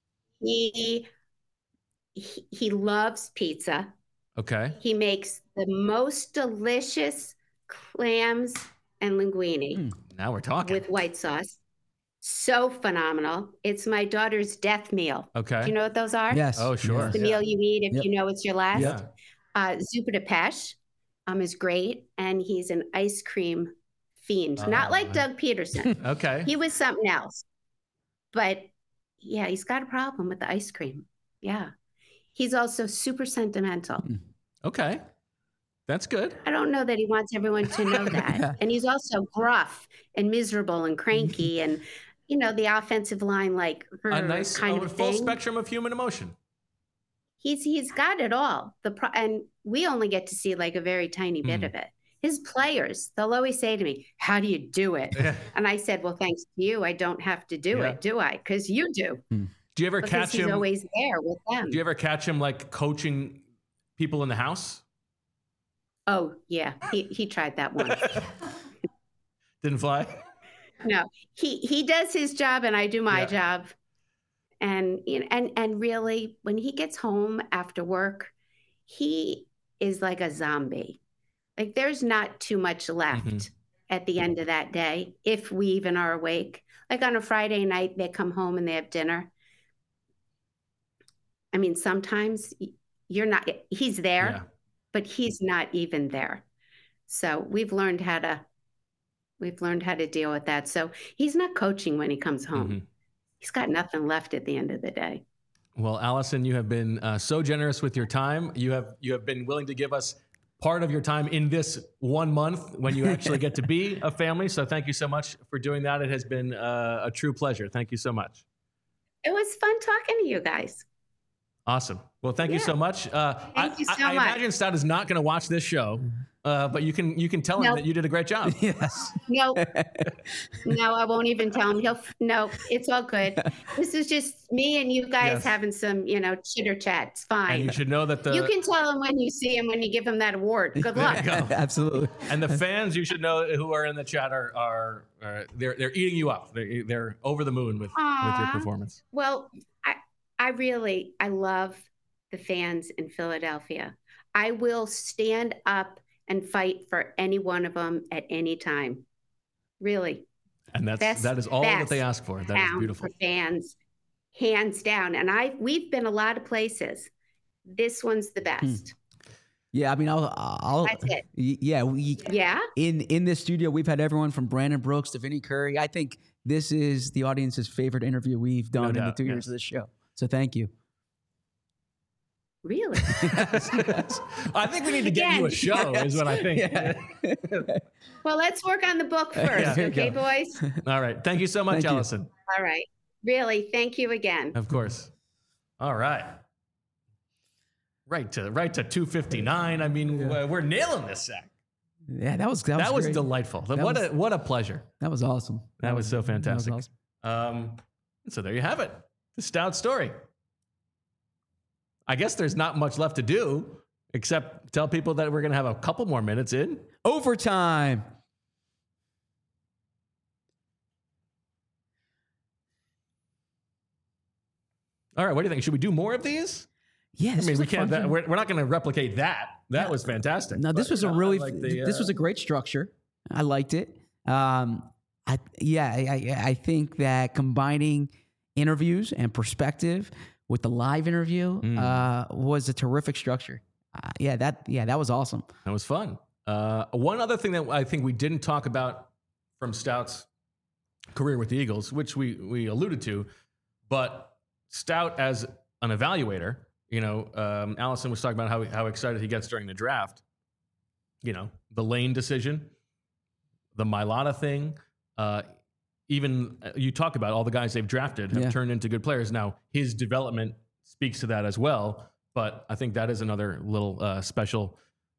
He loves pizza. Okay. He makes the most delicious clams and linguine. Now we're talking. With white sauce. So phenomenal. It's my daughter's death meal. Okay. Do you know what those are? Yes. Oh, sure. It's the meal you eat if you know it's your last. Yeah. Zuppa de Peche is great. And he's an ice cream fiend. Not like Doug Peterson. Okay. He was something else. But yeah, he's got a problem with the ice cream. Yeah. He's also super sentimental. Okay. That's good. I don't know that he wants everyone to know that. And he's also gruff and miserable and cranky and, the offensive line, like a nice kind of full thing. spectrum of human emotion. He's got it all. And we only get to see like a very tiny bit of it. His players, they'll always say to me, how do you do it? And I said, well, thanks to you, I don't have to do it, do I? Because you do. Do you ever catch him? He's always there with them. Do you ever catch him like coaching people in the house? Oh yeah, he tried that once. Didn't fly? No, he does his job and I do my job. And and really, when he gets home after work, he is like a zombie. Like there's not too much left. at the end of that day, if we even are awake. Like on a Friday night, they come home and they have dinner. I mean, sometimes he's there, but he's not even there. So we've learned how to deal with that. So he's not coaching when he comes home. Mm-hmm. He's got nothing left at the end of the day. Well, Allison, you have been so generous with your time. You have been willing to give us part of your time in this 1 month when you actually get to be a family. So thank you so much for doing that. It has been a true pleasure. Thank you so much. It was fun talking to you guys. Awesome. Well, thank you so much. Thank you so much. I imagine Stout is not going to watch this show, but you can tell him that you did a great job. Yes. No, I won't even tell him. No, it's all good. This is just me and you guys having some, chitter chat. It's fine. And you should know that you can tell him when you see him, when you give him that award. Good luck. Absolutely. And the fans, you should know, who are in the chat are they're eating you up. They're over the moon with your performance. Well, I love the fans in Philadelphia. I will stand up and fight for any one of them at any time. Really. And that is all that they ask for. That is beautiful. For fans, hands down. And we've been a lot of places. This one's the best. Yeah, I mean, I'll that's it. Yeah. In this studio, we've had everyone from Brandon Brooks to Vinnie Curry. I think this is the audience's favorite interview we've done in the 2 years of this show. So thank you. Really? I think we need to get you a show, is what I think. Yeah. Well, let's work on the book first, okay, boys? All right. Thank you so much, Allison. All right. Really, thank you again. Of course. All right. Right to 259. I mean, we're nailing this, Zach. Yeah, that was delightful. What a pleasure. That was awesome. That was so fantastic. That was awesome. So there you have it. The Stout story. I guess there's not much left to do except tell people that we're going to have a couple more minutes in overtime. All right. What do you think? Should we do more of these? Yeah. I mean, we can't. We're not going to replicate that. That was fantastic. No, this was this was a great structure. I liked it. I think that combining interviews and perspective with the live interview was a terrific structure. That was awesome. That was fun. One other thing that I think we didn't talk about from Stout's career with the Eagles, which we alluded to, but Stout as an evaluator, Allison was talking about how excited he gets during the draft. The Lane decision, the Mailata thing, even you talk about all the guys they've drafted have turned into good players. Now, his development speaks to that as well, but I think that is another little special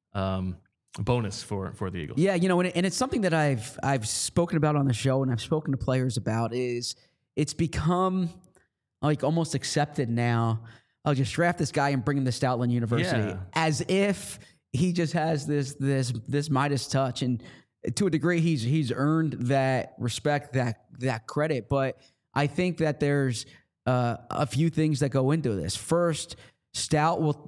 bonus for the Eagles. Yeah, and it's something that I've spoken about on the show and I've spoken to players about is it's become like almost accepted now. I'll just draft this guy and bring him to Stoutland University as if he just has this Midas touch, and to a degree, he's earned that respect, that credit. But I think that there's a few things that go into this. First, Stout will,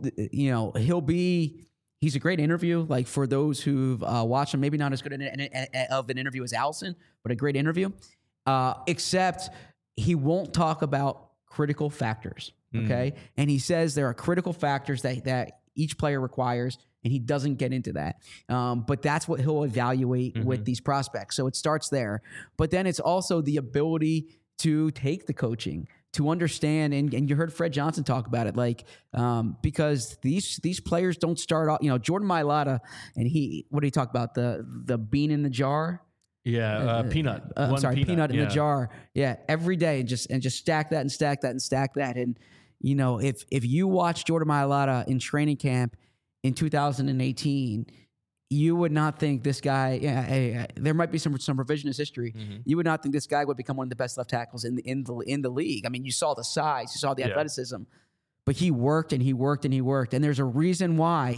he's a great interview. Like for those who've watched him, maybe not as good of an interview as Allison, but a great interview. Except he won't talk about critical factors. Okay, and he says there are critical factors that each player requires. And he doesn't get into that. But that's what he'll evaluate with these prospects. So it starts there. But then it's also the ability to take the coaching, to understand. And you heard Fred Johnson talk about it, because these players don't start off, Jordan Mailata, and what did he talk about? The bean in the jar? Yeah, peanut. Peanut in the jar. Yeah, every day, and just stack that and stack that and stack that. And, if you watch Jordan Mailata in training camp in 2018, you would not think this guy. There might be some revisionist history. You would not think this guy would become one of the best left tackles in the league. I mean, you saw the size, you saw the athleticism, but he worked and he worked and he worked. And there's a reason why.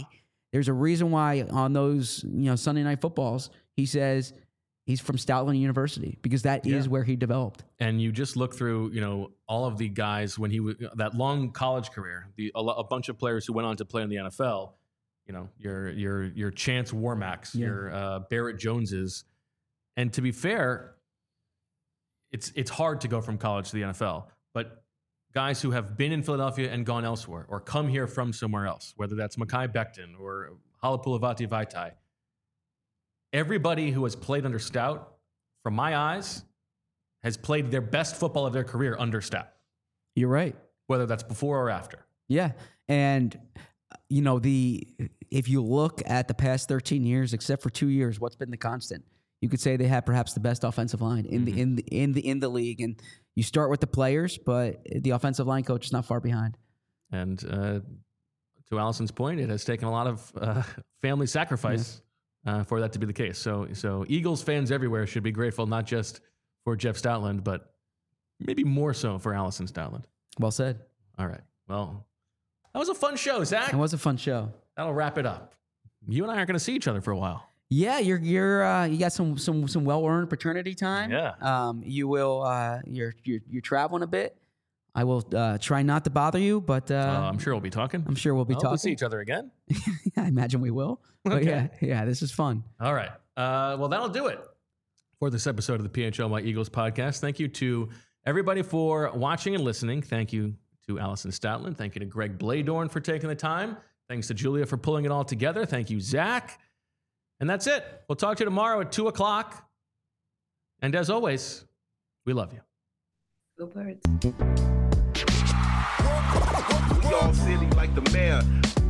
On those Sunday Night Footballs, he says he's from Stoutland University because that is where he developed. And you just look through all of the guys when he was that long college career, a bunch of players who went on to play in the NFL. Your Chance Warmacks, your Barrett Joneses, And to be fair, it's hard to go from college to the NFL, but guys who have been in Philadelphia and gone elsewhere or come here from somewhere else, whether that's Mekhi Becton or Halapoulivaati Vaitai, everybody who has played under Stout, from my eyes, has played their best football of their career under Stout. You're right. Whether that's before or after. Yeah. And, if you look at the past 13 years, except for 2 years, what's been the constant? You could say they have perhaps the best offensive line in the league. And you start with the players, but the offensive line coach is not far behind. And to Allison's point, it has taken a lot of family sacrifice for that to be the case. So Eagles fans everywhere should be grateful, not just for Jeff Stoutland, but maybe more so for Allison Stoutland. Well said. All right. Well, that was a fun show, Zach. It was a fun show. That'll wrap it up. You and I aren't going to see each other for a while. Yeah, you got some well-earned paternity time. Yeah. You will you're traveling a bit. I will try not to bother you, but I'm sure we'll be talking. I'm sure we'll be talking. We'll see each other again. I imagine we will. But Okay. yeah, this is fun. All right. Well, that'll do it for this episode of the PHLY Eagles podcast. Thank you to everybody for watching and listening. Thank you to Allison Stoutland. Thank you to Greg Bladorn for taking the time. Thanks to Julia for pulling it all together. Thank you, Zach. And that's it. We'll talk to you tomorrow at 2 o'clock. And as always, we love you. Go Birds. We all silly like the mayor.